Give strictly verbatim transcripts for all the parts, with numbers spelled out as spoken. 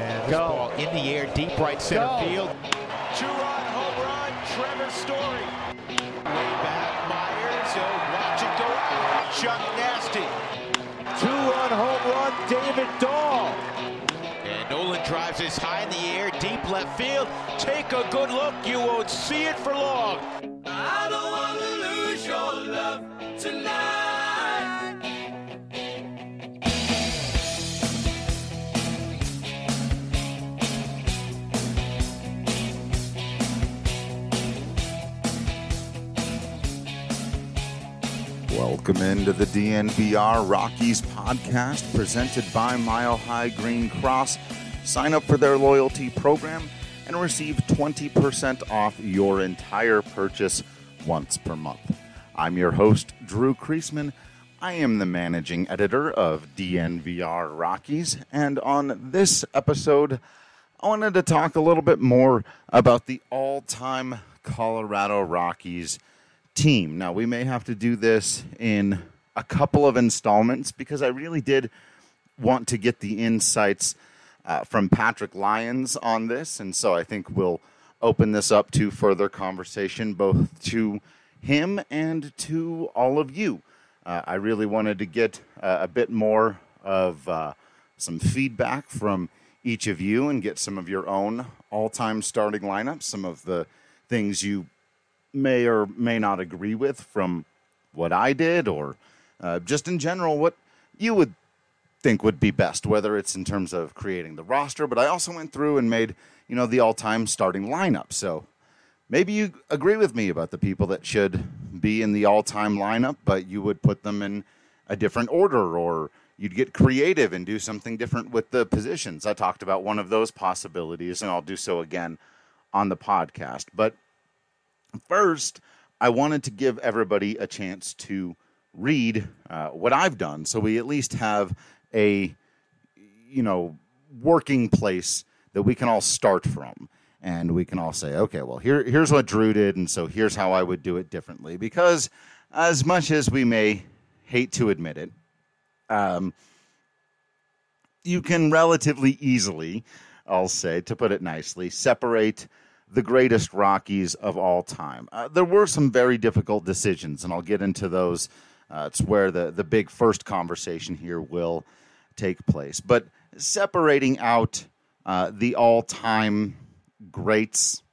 And this Go. ball in the air, deep right center Go. field. Two-run home run, Trevor Story. Way back, Myers. So watch it go out. Chuck Nasty. Two-run home run, David Dahl. And Nolan drives this high in the air, deep left field. Take a good look. You won't see it for long. I don't want to lose your love tonight. Welcome into the D N V R Rockies podcast presented by Mile High Green Cross. Sign up for their loyalty program and receive twenty percent off your entire purchase once per month. I'm your host, Drew Kreisman. I am the managing editor of D N V R Rockies, and on this episode, I wanted to talk a little bit more about the all-time Colorado Rockies team. Now, we may have to do this in a couple of installments because I really did want to get the insights uh, from Patrick Lyons on this, and so I think we'll open this up to further conversation both to him and to all of you. Uh, I really wanted to get uh, a bit more of uh, some feedback from each of you and get some of your own all-time starting lineups, some of the things you may or may not agree with from what I did, or uh, just in general what you would think would be best, whether it's in terms of creating the roster. But I also went through and made, you know, the all-time starting lineup. So maybe you agree with me about the people that should be in the all-time lineup, but you would put them in a different order, or you'd get creative and do something different with the positions. I talked about one of those possibilities, and I'll do so again on the podcast. But first, I wanted to give everybody a chance to read uh, what I've done, so we at least have a, you know, working place that we can all start from, and we can all say, okay, well, here, here's what Drew did, and so here's how I would do it differently. Because as much as we may hate to admit it, um, you can relatively easily, I'll say, to put it nicely, separate the greatest Rockies of all time. Uh, there were some very difficult decisions, and I'll get into those. Uh, it's where the, the big first conversation here will take place. But separating out uh, the all-time greats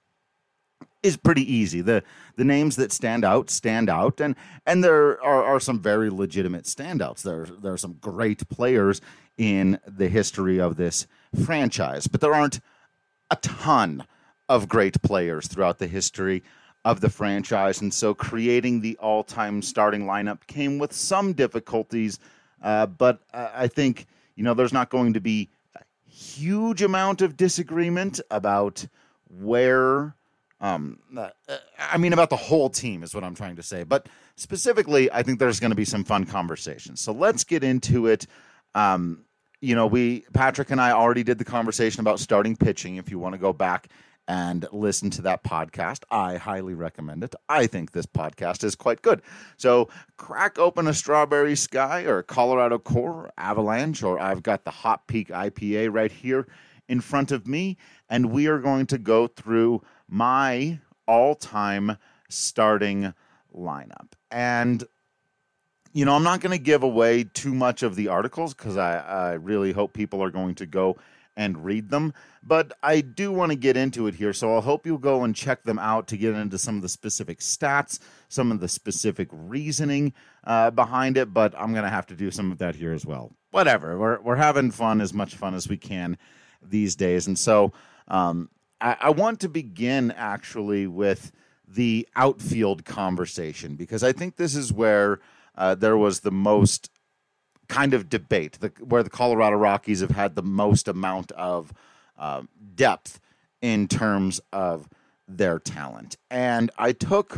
is pretty easy. The the names that stand out, stand out, and and there are, are some very legitimate standouts. There, there are some great players in the history of this franchise, but there aren't a ton of great players throughout the history of the franchise, and so creating the all-time starting lineup came with some difficulties, uh, but uh, I think, you know, there's not going to be a huge amount of disagreement about where, um, uh, I mean, about the whole team is what I'm trying to say, but specifically, I think there's going to be some fun conversations. So let's get into it. Um, you know, we, Patrick and I already did the conversation about starting pitching. If you want to go back and listen to that podcast, I highly recommend it. I think this podcast is quite good. So crack open a Strawberry Sky or a Colorado Core or Avalanche, or I've got the Hot Peak I P A right here in front of me, and we are going to go through my all-time starting lineup. And, you know, I'm not going to give away too much of the articles because I, I really hope people are going to go and read them, but I do want to get into it here, so I hope you'll go and check them out to get into some of the specific stats, some of the specific reasoning uh, behind it, but I'm going to have to do some of that here as well. Whatever, we're we're having fun, as much fun as we can these days, and so um, I, I want to begin actually with the outfield conversation, because I think this is where uh, there was the most kind of debate, the, where the Colorado Rockies have had the most amount of uh, depth in terms of their talent. And I took,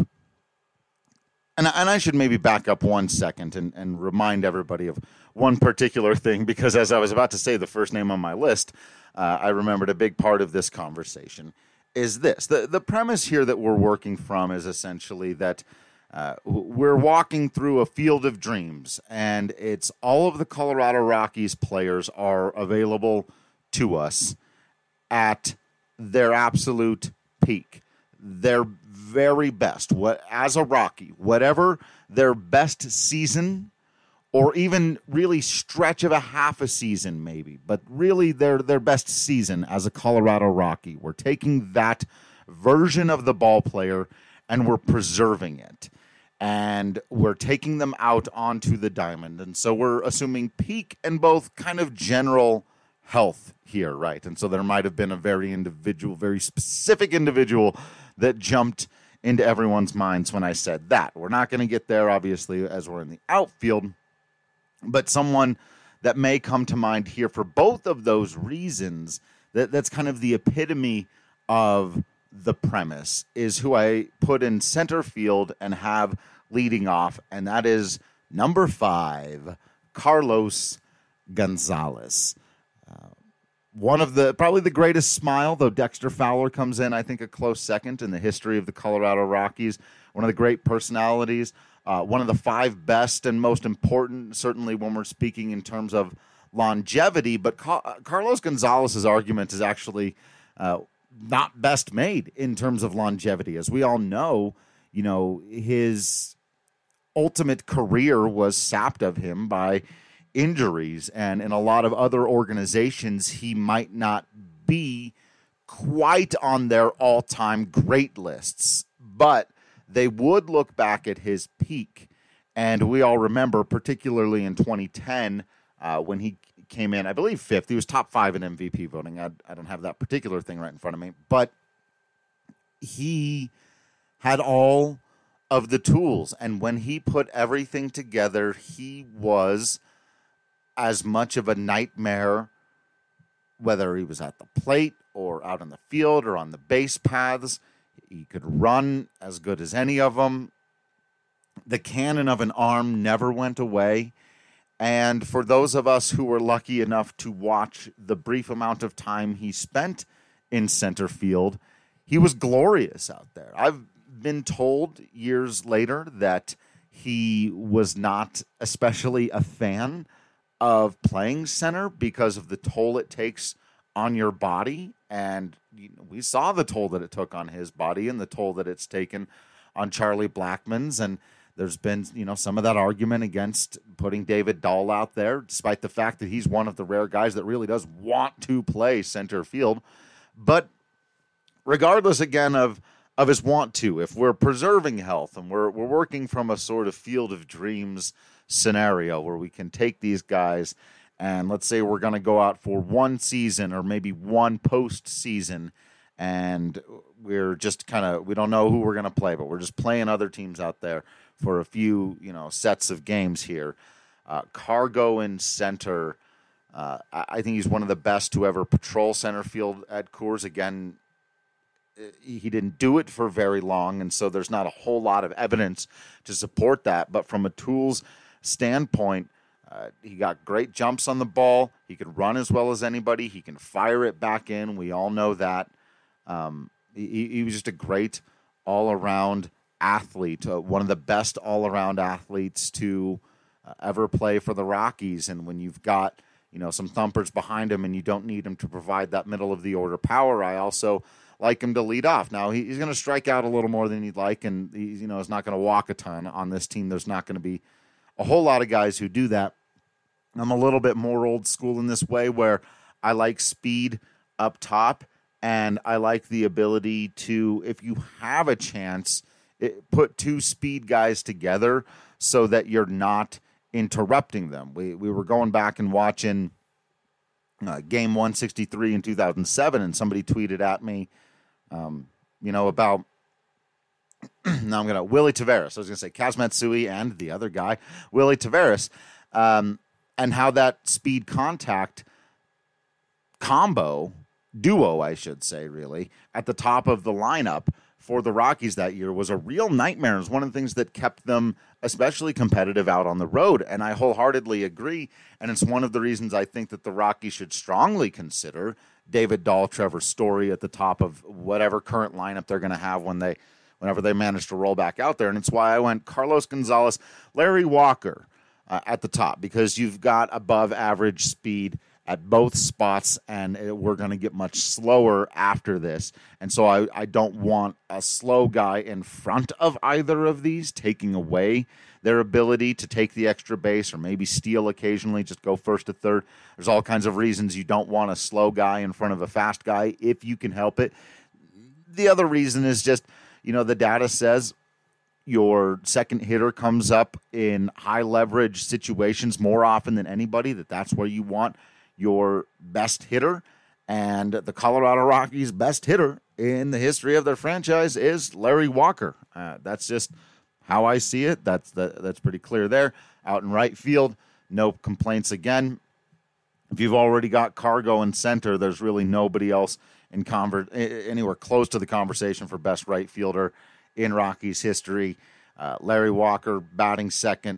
and, and I should maybe back up one second and, and remind everybody of one particular thing, because as I was about to say the first name on my list, uh, I remembered a big part of this conversation is this. The, the premise here that we're working from is essentially that Uh, we're walking through a field of dreams, and it's all of the Colorado Rockies players are available to us, at their absolute peak, their very best, what as a Rocky, whatever their best season or even really stretch of a half a season maybe, but really their their best season as a Colorado Rocky. We're taking that version of the ball player and we're preserving it. And we're taking them out onto the diamond. And so we're assuming peak and both kind of general health here, right? And so there might have been a very individual, very specific individual that jumped into everyone's minds when I said that. We're not going to get there, obviously, as we're in the outfield, but someone that may come to mind here for both of those reasons, that, that's kind of the epitome of the premise, is who I put in center field and have leading off, and that is number five, Carlos Gonzalez. Uh, one of the, probably the greatest smile, though Dexter Fowler comes in, I think, a close second in the history of the Colorado Rockies. One of the great personalities, uh, one of the five best and most important, certainly when we're speaking in terms of longevity, but Ca- Carlos Gonzalez's argument is actually uh, not best made in terms of longevity. As we all know, you know, his ultimate career was sapped of him by injuries, and in a lot of other organizations, he might not be quite on their all-time great lists, but they would look back at his peak, and we all remember, particularly in twenty ten, uh, when he came in, I believe, fifth. He was top five in M V P voting. I, I don't have that particular thing right in front of me, but he had all of the tools, and when he put everything together, he was as much of a nightmare, whether he was at the plate or out in the field or on the base paths. He could run as good as any of them. The cannon of an arm never went away. And for those of us who were lucky enough to watch the brief amount of time he spent in center field, he was glorious out there. I've been told years later that he was not especially a fan of playing center because of the toll it takes on your body. And you know, we saw the toll that it took on his body and the toll that it's taken on Charlie Blackmon's. And there's been, you know, some of that argument against putting David Dahl out there, despite the fact that he's one of the rare guys that really does want to play center field. But regardless, again, of of his want to, if we're preserving health and we're we're working from a sort of field of dreams scenario where we can take these guys and let's say we're going to go out for one season or maybe one postseason, and we're just kind of, we don't know who we're going to play, but we're just playing other teams out there for a few, you know, sets of games here. Uh, Cargo in center, uh, I think he's one of the best to ever patrol center field at Coors. Again, he didn't do it for very long, and so there's not a whole lot of evidence to support that. But from a tools standpoint, uh, he got great jumps on the ball. He could run as well as anybody. He can fire it back in. We all know that. Um, he, he was just a great all-around athlete, uh, one of the best all-around athletes to uh, ever play for the Rockies. And when you've got, you know, some thumpers behind him and you don't need him to provide that middle-of-the-order power, I also like him to lead off. Now, he, he's going to strike out a little more than he'd like, and he, you know, is not going to walk a ton on this team. There's not going to be a whole lot of guys who do that. I'm a little bit more old school in this way, where I like speed up top, and I like the ability to, if you have a chance, it, put two speed guys together so that you're not interrupting them. We we were going back and watching uh, game one sixty-three in two thousand seven, and somebody tweeted at me, um, you know, about, now I'm going to, Willie Taveras. I was going to say Kaz Matsui and the other guy, Willie Taveras, um, and how that speed contact combo, duo, I should say, really, at the top of the lineup for the Rockies that year was a real nightmare. It was one of the things that kept them especially competitive out on the road, and I wholeheartedly agree, and it's one of the reasons I think that the Rockies should strongly consider David Dahl, Trevor Story at the top of whatever current lineup they're going to have when they, whenever they manage to roll back out there, and it's why I went Carlos Gonzalez, Larry Walker uh, at the top, because you've got above average speed at both spots, and it, we're going to get much slower after this. And so I, I don't want a slow guy in front of either of these, taking away their ability to take the extra base or maybe steal occasionally, just go first to third. There's all kinds of reasons you don't want a slow guy in front of a fast guy if you can help it. The other reason is just, you know, the data says your second hitter comes up in high leverage situations more often than anybody, that that's where you want your best hitter. And the Colorado Rockies' best hitter in the history of their franchise is Larry Walker. Uh, that's just how I see it. That's the, that's pretty clear there. Out in right field, no complaints again. If you've already got Cargo in center, there's really nobody else in conver- anywhere close to the conversation for best right fielder in Rockies history. Uh, Larry Walker batting second,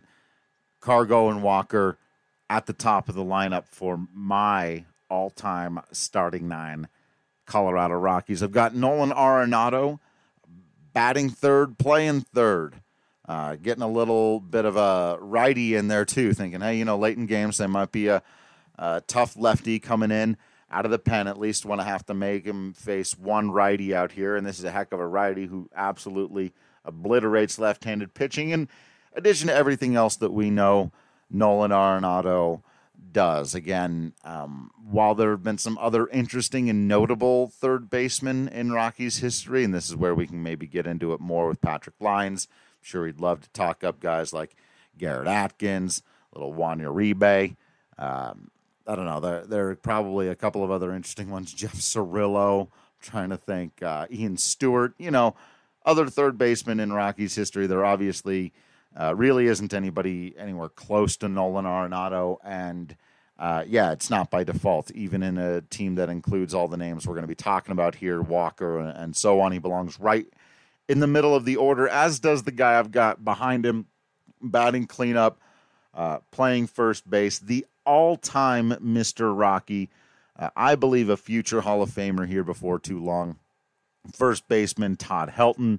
Cargo and Walker at the top of the lineup for my all-time starting nine Colorado Rockies. I've got Nolan Arenado batting third, playing third. Uh, getting a little bit of a righty in there, too, thinking, hey, you know, late in games, there might be a, a tough lefty coming in out of the pen, at least want to have to make him face one righty out here, and this is a heck of a righty who absolutely obliterates left-handed pitching. In addition to everything else that we know Nolan Arenado does. Again, um, while there have been some other interesting and notable third basemen in Rockies history, and this is where we can maybe get into it more with Patrick Lyons. I'm sure he'd love to talk up guys like Garrett Atkins, little Juan Uribe. Um, I don't know. There, there are probably a couple of other interesting ones. Jeff Cirillo, I'm trying to think. Uh, Ian Stewart, you know, other third basemen in Rockies history. There obviously uh, really isn't anybody anywhere close to Nolan Arenado. And, uh, yeah, it's not by default, even in a team that includes all the names we're going to be talking about here, Walker and, and so on. He belongs right in the middle of the order, as does the guy I've got behind him, batting cleanup, uh, playing first base, the all-time Mister Rocky. Uh, I believe a future Hall of Famer here before too long. First baseman Todd Helton,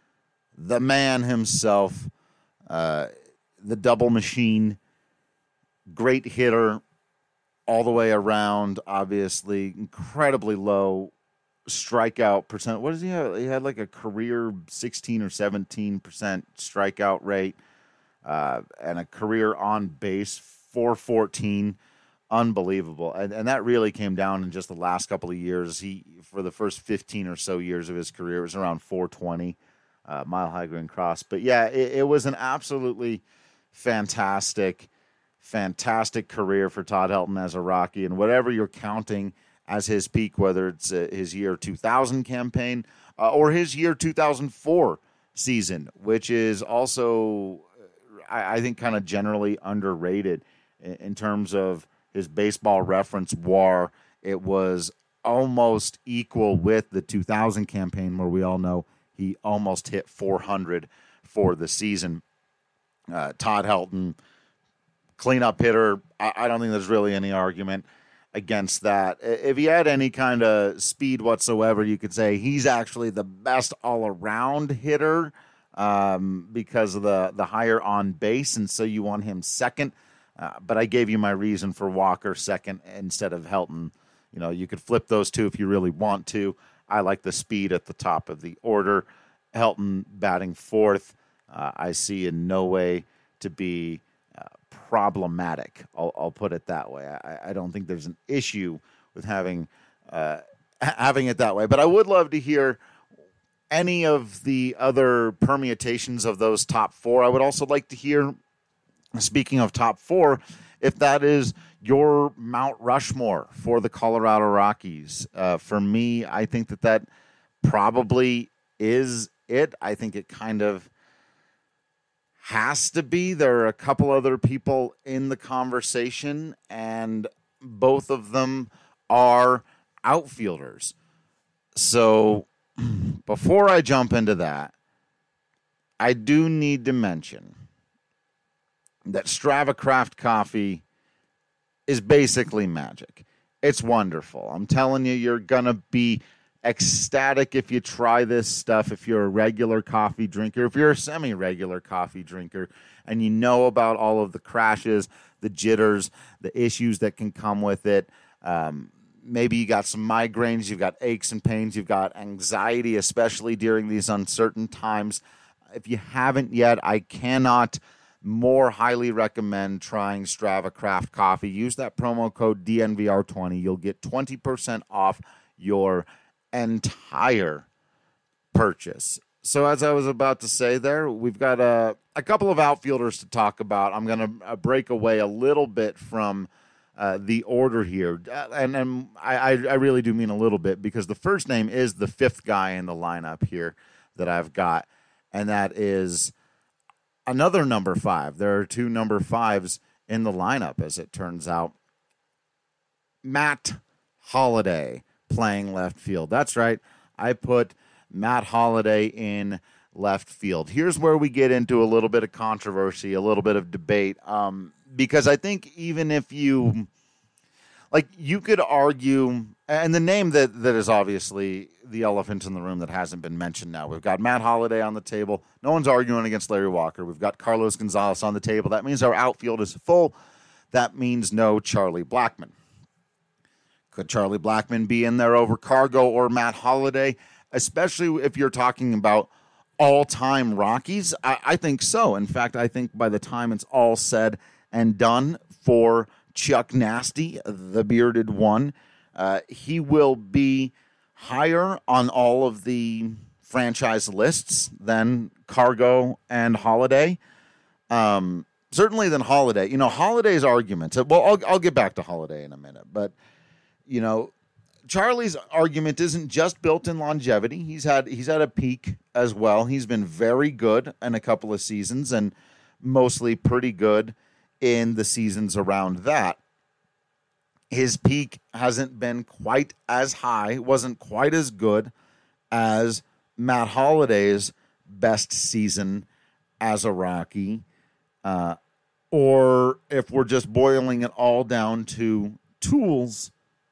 the man himself, uh, the double machine, great hitter all the way around, obviously, incredibly low strikeout percent. What does he have? He had like a career sixteen or seventeen percent strikeout rate, uh, and a career on base four fourteen. Unbelievable. And and that really came down in just the last couple of years. He, for the first fifteen or so years of his career, it was around four twenty, uh, Mile High Green Cross. But yeah, it, it was an absolutely fantastic, fantastic career for Todd Helton as a Rocky. And whatever you're counting as his peak, whether it's uh, his year two thousand campaign uh, or his year two thousand four season, which is also, I, I think, kind of generally underrated in, in terms of his baseball reference W A R. It was almost equal with the two thousand campaign, where we all know he almost hit four hundred for the season. Uh, Todd Helton, cleanup hitter. I, I don't think there's really any argument against that. If he had any kind of speed whatsoever, you could say he's actually the best all-around hitter um, because of the, the higher on base, and so you want him second. Uh, but I gave you my reason for Walker second instead of Helton. You know, you could flip those two if you really want to. I like the speed at the top of the order. Helton batting fourth, uh, I see in no way to be uh, problematic. I'll, I'll put it that way. I, I don't think there's an issue with having uh, having it that way. But I would love to hear any of the other permutations of those top four. I would also like to hear, speaking of top four, if that is your Mount Rushmore for the Colorado Rockies. Uh, for me, I think that that probably is it. I think it kind of has to be. There are a couple other people in the conversation, and both of them are outfielders. So before I jump into that, I do need to mention that Strava Craft coffee is basically magic. It's wonderful. I'm telling you, you're going to be ecstatic if you try this stuff, if you're a regular coffee drinker, if you're a semi-regular coffee drinker, and you know about all of the crashes, the jitters, the issues that can come with it. Um, maybe you got some migraines, you've got aches and pains, you've got anxiety, especially during these uncertain times. If you haven't yet, I cannot more highly recommend trying Strava Craft Coffee. Use that promo code D N V R twenty. You'll get twenty percent off your entire purchase. So as I was about to say there, we've got a, a couple of outfielders to talk about. I'm going to uh, break away a little bit from uh, the order here. Uh, and and I, I really do mean a little bit, because the first name is the fifth guy in the lineup here that I've got, and that is another number five. There are two number fives in the lineup, as it turns out. Matt Holliday playing left field. That's right. I put Matt Holliday in left field. Here's where we get into a little bit of controversy, a little bit of debate, um, because I think even if you, like, you could argue, and the name that, that is obviously the elephant in the room that hasn't been mentioned now. We've got Matt Holliday on the table. No one's arguing against Larry Walker. We've got Carlos Gonzalez on the table. That means our outfield is full. That means no Charlie Blackmon. Could Charlie Blackmon be in there over Cargo or Matt Holliday? Especially if you're talking about all-time Rockies, I, I think so. In fact, I think by the time it's all said and done for Chuck Nasty, the bearded one, uh, he will be higher on all of the franchise lists than Cargo and Holliday. Um, certainly than Holliday. You know, Holliday's argument, well, I'll, I'll get back to Holliday in a minute, but, you know, Charlie's argument isn't just built in longevity. He's had he's had a peak as well. He's been very good in a couple of seasons and mostly pretty good in the seasons around that. His peak hasn't been quite as high, wasn't quite as good as Matt Holliday's best season as a Rocky. Uh, or if we're just boiling it all down to tools,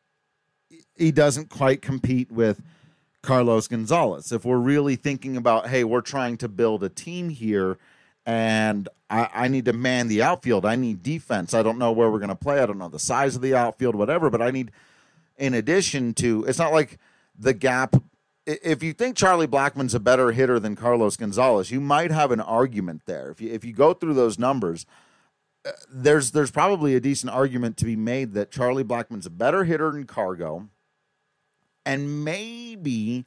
he doesn't quite compete with Carlos Gonzalez. If we're really thinking about, hey, we're trying to build a team here, and I, I need to man the outfield. I need defense. I don't know where we're going to play. I don't know the size of the outfield, whatever, but I need, in addition to, it's not like the gap. If you think Charlie Blackmon's a better hitter than Carlos Gonzalez, you might have an argument there. If you, if you go through those numbers, uh, there's there's probably a decent argument to be made that Charlie Blackmon's a better hitter than Cargo. And maybe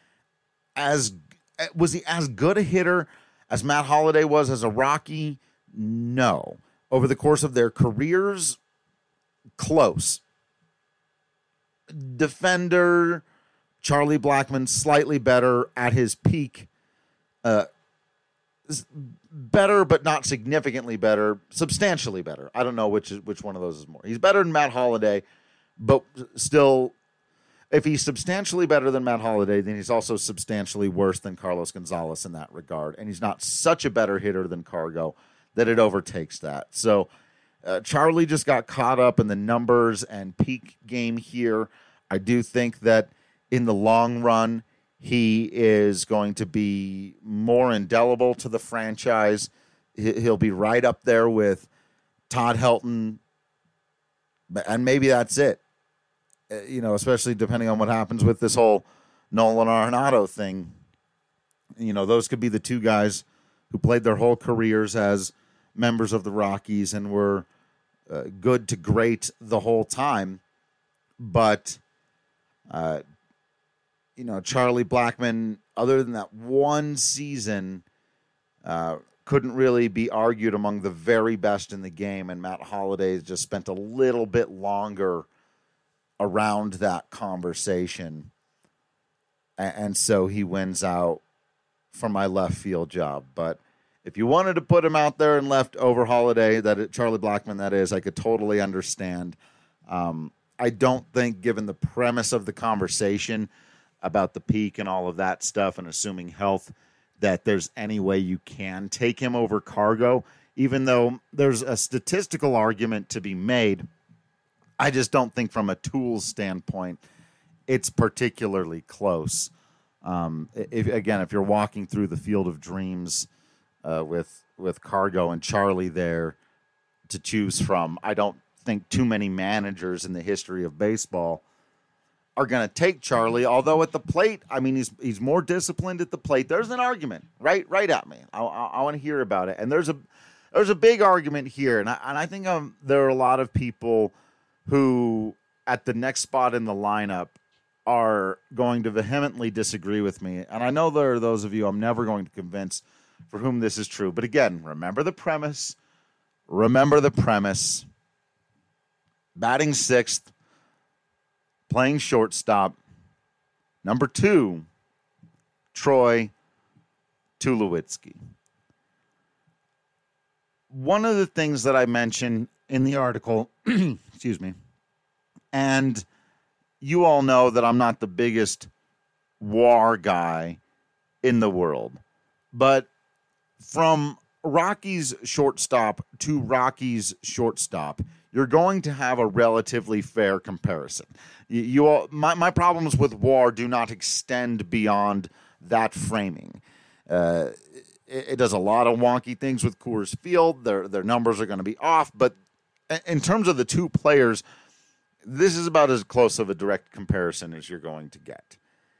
as was he as good a hitter as Matt Holliday was as a Rocky? No. Over the course of their careers, close. Defender, Charlie Blackmon, slightly better at his peak. Uh, better, but not significantly better. Substantially better. I don't know which is, which one of those is more. He's better than Matt Holliday, but still, if he's substantially better than Matt Holliday, then he's also substantially worse than Carlos Gonzalez in that regard. And he's not such a better hitter than Cargo that it overtakes that. So uh, Charlie just got caught up in the numbers and peak game here. I do think that in the long run, he is going to be more indelible to the franchise. He'll be right up there with Todd Helton, and maybe that's it. You know, especially depending on what happens with this whole Nolan Arenado thing. You know, those could be the two guys who played their whole careers as members of the Rockies and were uh, good to great the whole time. But, uh, you know, Charlie Blackmon, other than that one season, uh, couldn't really be argued among the very best in the game. And Matt Holliday just spent a little bit longer around that conversation, and so he wins out for my left field job. But if you wanted to put him out there and left over Holliday, that it, Charlie Blackmon, that is, I could totally understand. Um, I don't think, given the premise of the conversation about the peak and all of that stuff and assuming health, that there's any way you can take him over Cargo, even though there's a statistical argument to be made. I just don't think from a tools standpoint it's particularly close. Um, if, again, if you're walking through the Field of Dreams uh, with with Cargo and Charlie there to choose from, I don't think too many managers in the history of baseball are going to take Charlie. Although at the plate, I mean, he's he's more disciplined at the plate. There's an argument, right? Right at me. I, I, I want to hear about it. And there's a there's a big argument here, and I, and I think um, there are a lot of people who at the next spot in the lineup are going to vehemently disagree with me. And I know there are those of you I'm never going to convince for whom this is true. But again, remember the premise. Remember the premise. Batting sixth, playing shortstop. Number two, Troy Tulowitzki. One of the things that I mentioned in the article, excuse me, and you all know that I'm not the biggest W A R guy in the world, but from Rockies shortstop to Rockies shortstop, you're going to have a relatively fair comparison. You, you all, my, my problems with W A R do not extend beyond that framing. Uh, it, it does a lot of wonky things with Coors Field. Their their numbers are going to be off, but in terms of the two players, this is about as close of a direct comparison as you're going to get.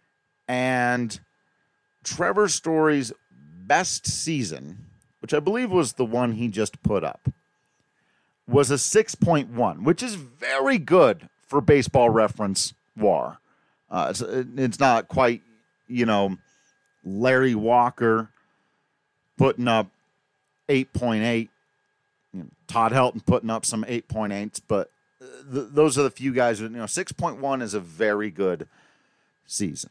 And Trevor Story's best season, which I believe was the one he just put up, was a six point one, which is very good for Baseball Reference W A R. Uh, it's, it's not quite, you know, Larry Walker putting up eight point eight, you know, Todd Helton putting up some eight point eights, but th- those are the few guys. You know, six point one is a very good season.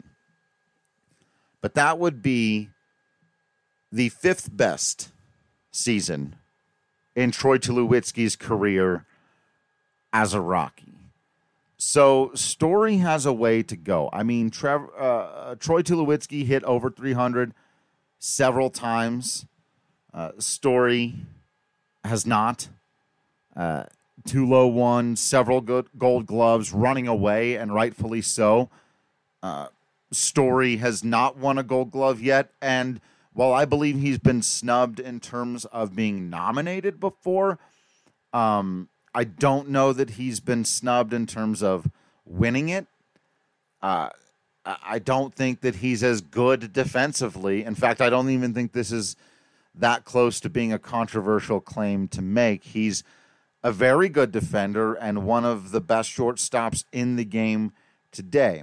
But that would be the fifth best season in Troy Tulowitzki's career as a Rocky. So Story has a way to go. I mean, Trev, uh, Troy Tulowitzki hit over three hundred several times. Uh, Story has not. Uh, Tulo won several good Gold Gloves running away, and rightfully so. Uh, Story has not won a Gold Glove yet, and while I believe he's been snubbed in terms of being nominated before, um, I don't know that he's been snubbed in terms of winning it. Uh, I don't think that he's as good defensively. In fact, I don't even think this is that close to being a controversial claim to make. He's a very good defender and one of the best shortstops in the game today.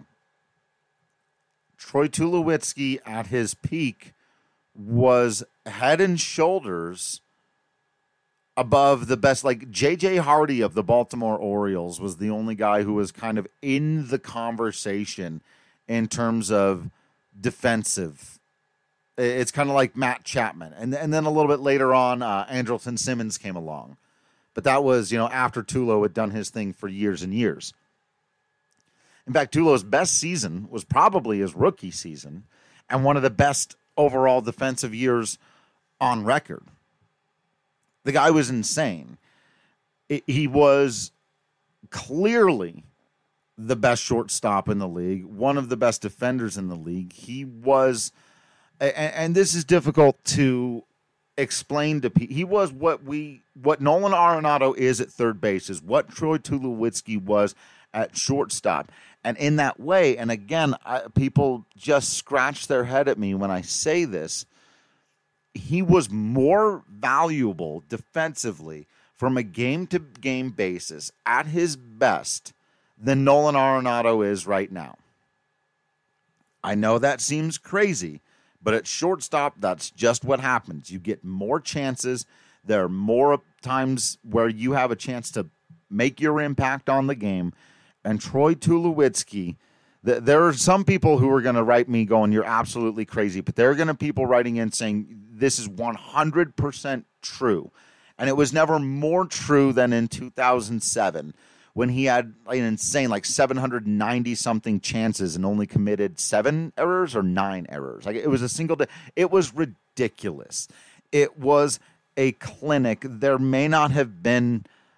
Troy Tulowitzki at his peak was head and shoulders above the best. Like J J Hardy of the Baltimore Orioles was the only guy who was kind of in the conversation in terms of defensive. It's kind of like Matt Chapman. And, and then a little bit later on, uh, Andrelton Simmons came along. But that was, you know, after Tulo had done his thing for years and years. In fact, Tulo's best season was probably his rookie season and one of the best overall defensive years on record. The guy was insane. It, he was clearly the best shortstop in the league, one of the best defenders in the league. He was, and, and this is difficult to explain to people. He was what we, what Nolan Arenado is at third base, is what Troy Tulowitzki was at shortstop. And in that way, and again, I, people just scratch their head at me when I say this, he was more valuable defensively from a game-to-game basis at his best than Nolan Arenado is right now. I know that seems crazy, but at shortstop, that's just what happens. You get more chances. There are more times where you have a chance to make your impact on the game. And Troy Tulowitzki, th- there are some people who are going to write me going, you're absolutely crazy. But there are going to be people writing in saying, this is one hundred percent true. And it was never more true than in two thousand seven when he had an insane, like seven hundred ninety something chances and only committed seven errors or nine errors. Like it was a single day. It was ridiculous. It was a clinic. There may not have been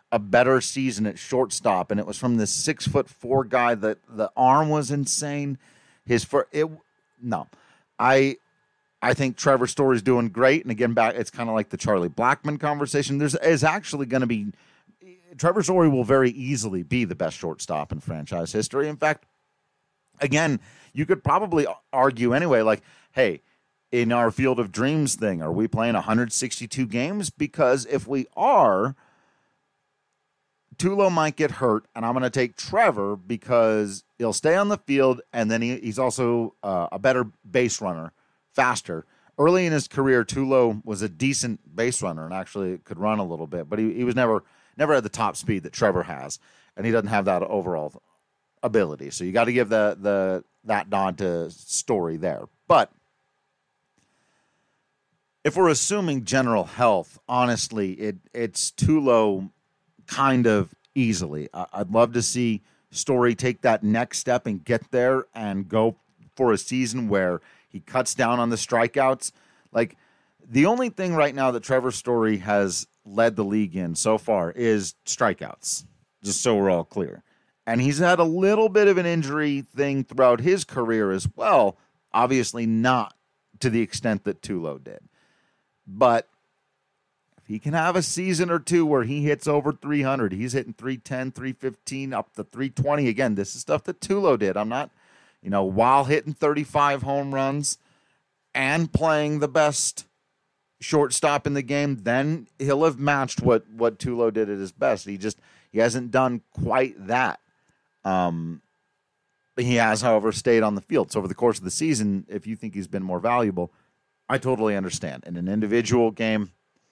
a better season at shortstop, and it was from this six foot four guy that the arm was insane. His for it no, I I think Trevor Story's doing great, and again back it's kind of like the Charlie Blackmon conversation. There's is actually going to be Trevor Story will very easily be the best shortstop in franchise history. In fact, again, you could probably argue anyway, like, hey, in our Field of Dreams thing, are we playing one hundred sixty-two games? Because if we are, Tulo might get hurt, and I'm going to take Trevor because he'll stay on the field, and then he, he's also uh, a better base runner, faster. Early in his career, Tulo was a decent base runner and actually could run a little bit, but he, he was never never at the top speed that Trevor has, and he doesn't have that overall ability. So you got to give the the that nod to Story there. But if we're assuming general health, honestly, it it's Tulo kind of easily. I'd love to see Story take that next step and get there and go for a season where he cuts down on the strikeouts. Like, the only thing right now that Trevor Story has led the league in so far is strikeouts, just so we're all clear. And he's had a little bit of an injury thing throughout his career as well, obviously not to the extent that Tulo did. But if he can have a season or two where he hits over three hundred, he's hitting three ten, three fifteen, up to three twenty. Again, this is stuff that Tulo did. I'm not, you know, while hitting thirty-five home runs and playing the best shortstop in the game, then he'll have matched what, what Tulo did at his best. He just, he hasn't done quite that. Um, he has, however, stayed on the field. So over the course of the season, if you think he's been more valuable, I totally understand. In an individual game,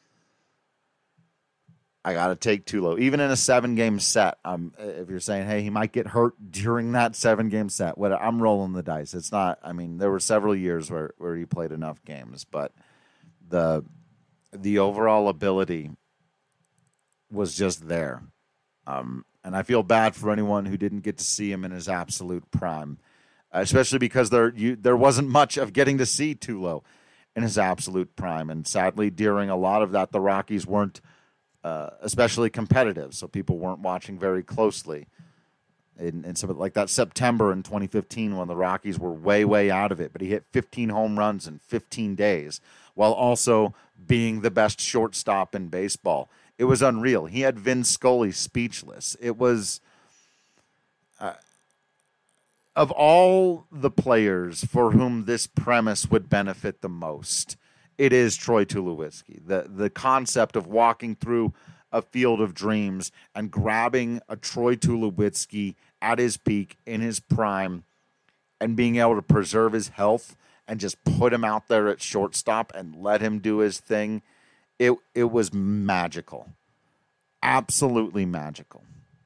I got to take Tulo. Even in a seven-game set, um, if you're saying, hey, he might get hurt during that seven-game set, what, I'm rolling the dice. It's not, I mean, there were several years where, where he played enough games, but the the overall ability was just there. Um, and I feel bad for anyone who didn't get to see him in his absolute prime, especially because there you, there wasn't much of getting to see Tulo in his absolute prime. And sadly, during a lot of that, the Rockies weren't uh, especially competitive, so people weren't watching very closely. In, in some, like that September in twenty fifteen when the Rockies were way, way out of it, but he hit fifteen home runs in fifteen days while also being the best shortstop in baseball. It was unreal. He had Vin Scully speechless. It was, uh, of all the players for whom this premise would benefit the most, it is Troy Tulowitzki. The, the concept of walking through a field of dreams and grabbing a Troy Tulowitzki at his peak, in his prime, and being able to preserve his health and just put him out there at shortstop and let him do his thing. It it was magical. Absolutely magical.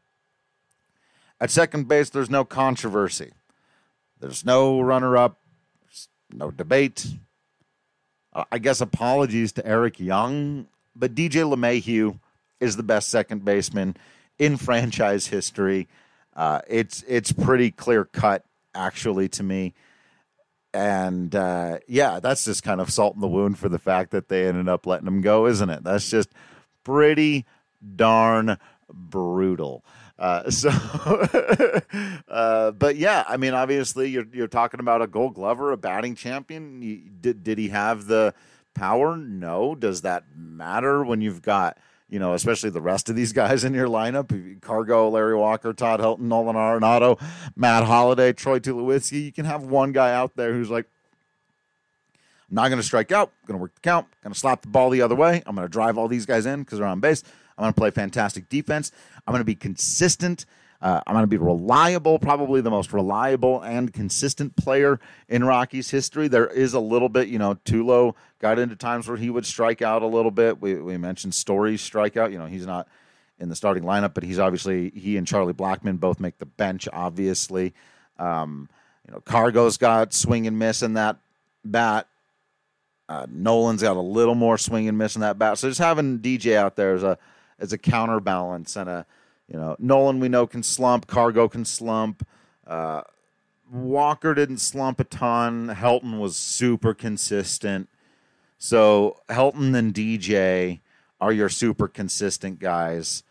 At second base, there's no controversy. There's no runner-up, no debate. Uh, I guess apologies to Eric Young, but D J LeMahieu is the best second baseman in franchise history. Uh, it's it's pretty clear-cut, actually, to me. And, uh, yeah, that's just kind of salt in the wound for the fact that they ended up letting him go, isn't it? That's just pretty darn brutal. Uh, so, uh, but, yeah, I mean, obviously you're you're talking about a Gold Glover, a batting champion. You, did, did he have the power? No. Does that matter when you've got, you know, especially the rest of these guys in your lineup? Cargo, Larry Walker, Todd Helton, Nolan Arenado, Matt Holliday, Troy Tulowitzki. You can have one guy out there who's like, I'm not going to strike out. I'm going to work the count. I'm going to slap the ball the other way. I'm going to drive all these guys in because they're on base. I'm going to play fantastic defense. I'm going to be consistent. Uh, I'm going to be reliable, probably the most reliable and consistent player in Rockies history. There is a little bit, you know, Tulo got into times where he would strike out a little bit. We we mentioned Story's strikeout. You know, he's not in the starting lineup, but he's obviously, he and Charlie Blackmon both make the bench, obviously. Um, you know, Cargo's got swing and miss in that bat. Uh, Nolan's got a little more swing and miss in that bat. So just having D J out there as a as a counterbalance and a, you know, Nolan we know can slump, Cargo can slump. Uh, Walker didn't slump a ton. Helton was super consistent. So Helton and D J are your super consistent guys.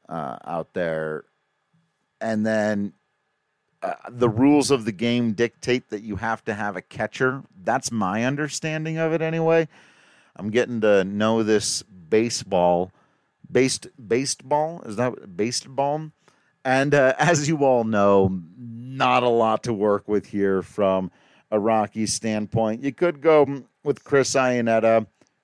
uh, out there. And then uh, the rules of the game dictate that you have to have a catcher. That's my understanding of it anyway. I'm getting to know this baseball. Based, baseball? Is that baseball? And uh, as you all know, not a lot to work with here from a Rockies standpoint. You could go with Chris Iannetta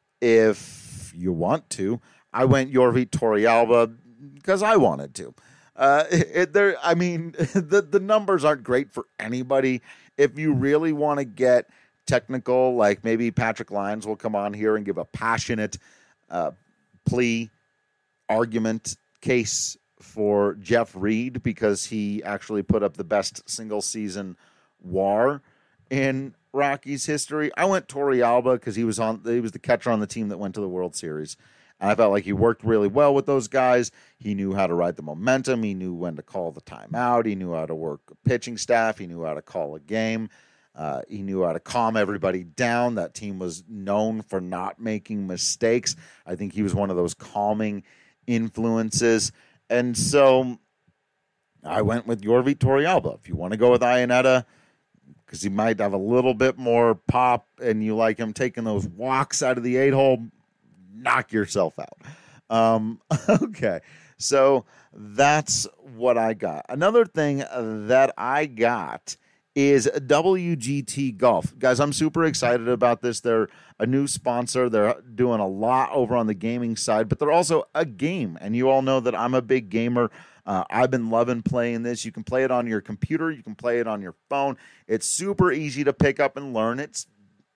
if you want to. I went Yorvi Torrealba because I wanted to. Uh, it, there, I mean, the, the numbers aren't great for anybody. If you really want to get technical, like maybe Patrick Lyons will come on here and give a passionate uh, plea, argument, case for Jeff Reed because he actually put up the best single season W A R in Rockies history. I went Torrealba because he was on. He was the catcher on the team that went to the World Series, and I felt like he worked really well with those guys. He knew how to ride the momentum. He knew when to call the timeout. He knew how to work a pitching staff. He knew how to call a game. Uh, he knew how to calm everybody down. That team was known for not making mistakes. I think he was one of those calming influences. And so I went with Yorvi Torrealba. If you want to go with Iannetta, because he might have a little bit more pop and you like him taking those walks out of the eight-hole, knock yourself out. Um, okay, so that's what I got. Another thing that I got is W G T Golf. Guys, I'm super excited about this. They're a new sponsor. They're doing a lot over on the gaming side, but they're also a game. And you all know that I'm a big gamer. Uh, I've been loving playing this. You can play it on your computer. You can play it on your phone. It's super easy to pick up and learn. It's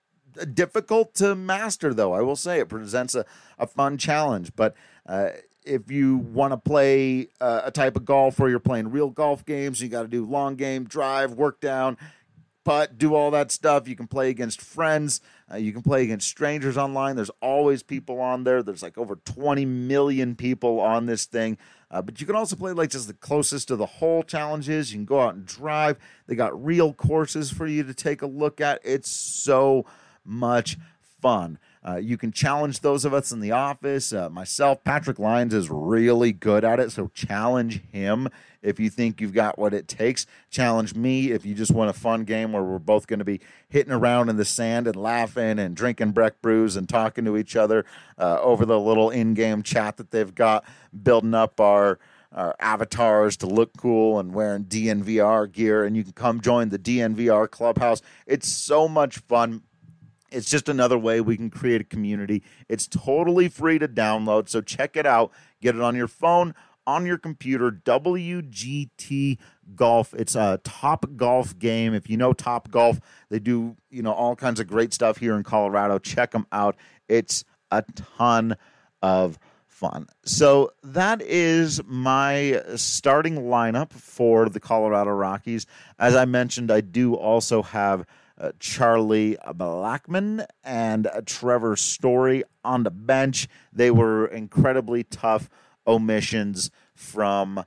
difficult to master, though. I will say it presents a, a fun challenge. But uh, if you want to play uh, a type of golf where you're playing real golf games, you got to do long game, drive, work down, putt, do all that stuff. You can play against friends. Uh, you can play against strangers online. There's always people on there. There's like over twenty million people on this thing. Uh, but you can also play like just the closest to the hole challenges. You can go out and drive. They got real courses for you to take a look at. It's so much fun. Uh, you can challenge those of us in the office. Uh, myself, Patrick Lyons is really good at it, so challenge him if you think you've got what it takes. Challenge me if you just want a fun game where we're both going to be hitting around in the sand and laughing and drinking Breck brews and talking to each other uh, over the little in-game chat that they've got, building up our our avatars to look cool and wearing D N V R gear, and you can come join the D N V R Clubhouse. It's so much fun. It's just another way we can create a community. It's totally free to download, so check it out. Get it on your phone, on your computer, W G T Golf. It's a Top Golf game. If you know Top Golf, they do, you know, all kinds of great stuff here in Colorado. Check them out. It's a ton of fun. So that is my starting lineup for the Colorado Rockies. As I mentioned, I do also have Uh, Charlie Blackmon and uh, Trevor Story on the bench. They were incredibly tough omissions from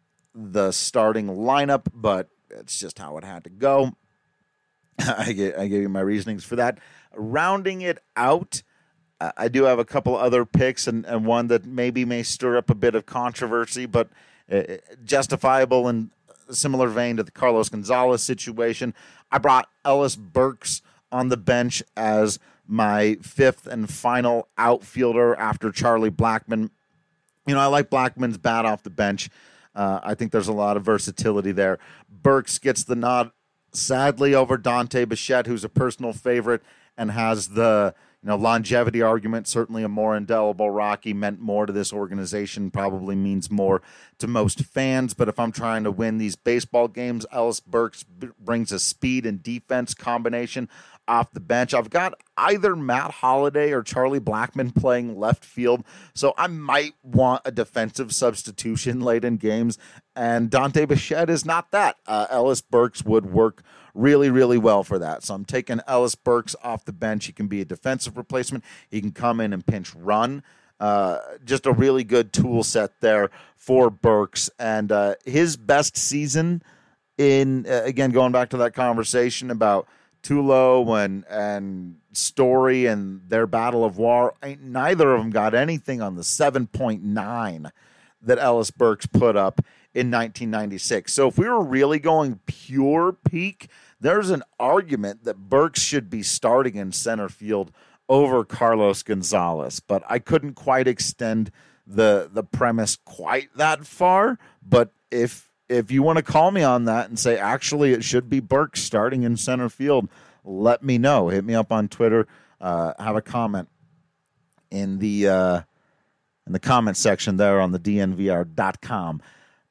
the starting lineup, but it's just how it had to go. I, get, I gave you my reasonings for that. Rounding it out, uh, I do have a couple other picks and, and one that maybe may stir up a bit of controversy, but uh, justifiable in a similar vein to the Carlos Gonzalez situation. I brought Ellis Burks on the bench as my fifth and final outfielder after Charlie Blackmon. You know, I like Blackmon's bat off the bench. Uh, I think there's a lot of versatility there. Burks gets the nod, sadly, over Dante Bichette, who's a personal favorite and has the you know longevity argument. Certainly a more indelible Rocky, meant more to this organization, probably means more to most fans. But if I'm trying to win these baseball games, Ellis Burks b- brings a speed and defense combination off the bench. I've got either Matt Holliday or Charlie Blackmon playing left field, so I might want a defensive substitution late in games, and Dante Bichette is not that. Uh, Ellis Burks would work really, really well for that. So I'm taking Ellis Burks off the bench. He can be a defensive replacement. He can come in and pinch run. Uh, just a really good tool set there for Burks. And uh, his best season in, uh, again, going back to that conversation about Tulo and, and Story and their battle of W A R, ain't neither of them got anything on the seven point nine that Ellis Burks put up in nineteen ninety-six. So if we were really going pure peak, there's an argument that Burks should be starting in center field over Carlos Gonzalez, but I couldn't quite extend the the premise quite that far. But if if you want to call me on that and say, actually, it should be Burks starting in center field, let me know. Hit me up on Twitter. Uh, have a comment in the uh, in the comment section there on the D N V R dot com.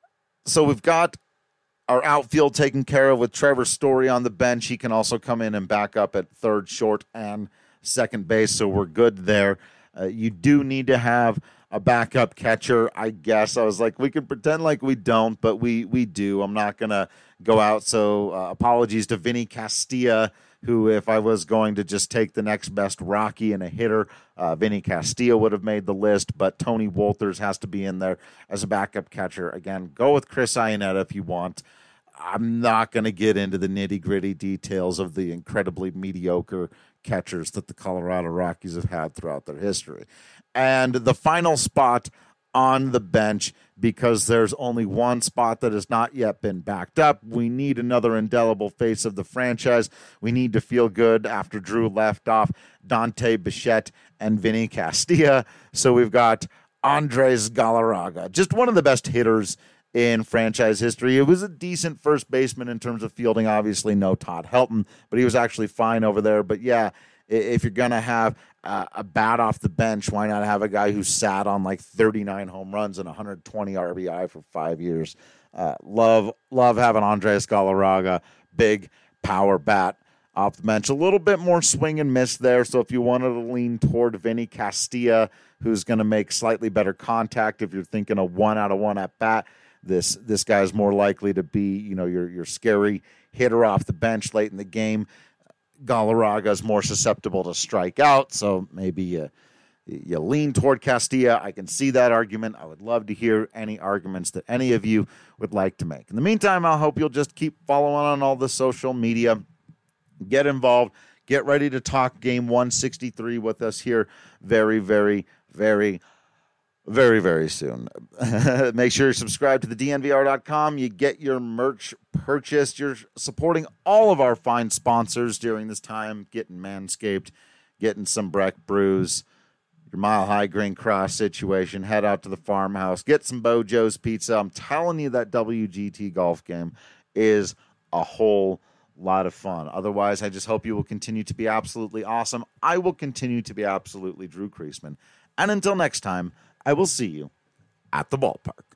So we've got our outfield taken care of with Trevor Story on the bench. He can also come in and back up at third, short, and second base, so we're good there. Uh, you do need to have a backup catcher, I guess. I was like, we can pretend like we don't, but we we do. I'm not going to go out, so uh, apologies to Vinny Castilla, who, if I was going to just take the next best Rocky and a hitter, uh, Vinny Castilla would have made the list, but Tony Wolters has to be in there as a backup catcher. Again, go with Chris Iannetta if you want. I'm not going to get into the nitty-gritty details of the incredibly mediocre catchers that the Colorado Rockies have had throughout their history. And the final spot on the bench, because there's only one spot that has not yet been backed up. We need another indelible face of the franchise. We need to feel good after Drew left off Dante Bichette and Vinny Castilla. So we've got Andres Galarraga, just one of the best hitters in franchise history. It was a decent first baseman in terms of fielding. Obviously, no Todd Helton, but he was actually fine over there. But yeah, if you're going to have uh, a bat off the bench, why not have a guy who sat on like thirty-nine home runs and one hundred twenty R B I for five years? Uh, love, love having Andres Galarraga, big power bat off the bench. A little bit more swing and miss there. So if you wanted to lean toward Vinny Castilla, who's going to make slightly better contact, if you're thinking a one out of one at bat, This this guy's more likely to be, you know, your your scary hitter off the bench late in the game. Galarraga is more susceptible to strike out, so maybe you, you lean toward Castilla. I can see that argument. I would love to hear any arguments that any of you would like to make. In the meantime, I hope you'll just keep following on all the social media. Get involved. Get ready to talk game one sixty-three with us here very, very, very Very, very soon. Make sure you're subscribed to the D N V R dot com. You get your merch purchased. You're supporting all of our fine sponsors during this time, getting Manscaped, getting some Breck Brews, your Mile High Green Cross situation. Head out to the farmhouse. Get some Bojo's Pizza. I'm telling you, that W G T golf game is a whole lot of fun. Otherwise, I just hope you will continue to be absolutely awesome. I will continue to be absolutely Drew Creasman. And until next time, I will see you at the ballpark.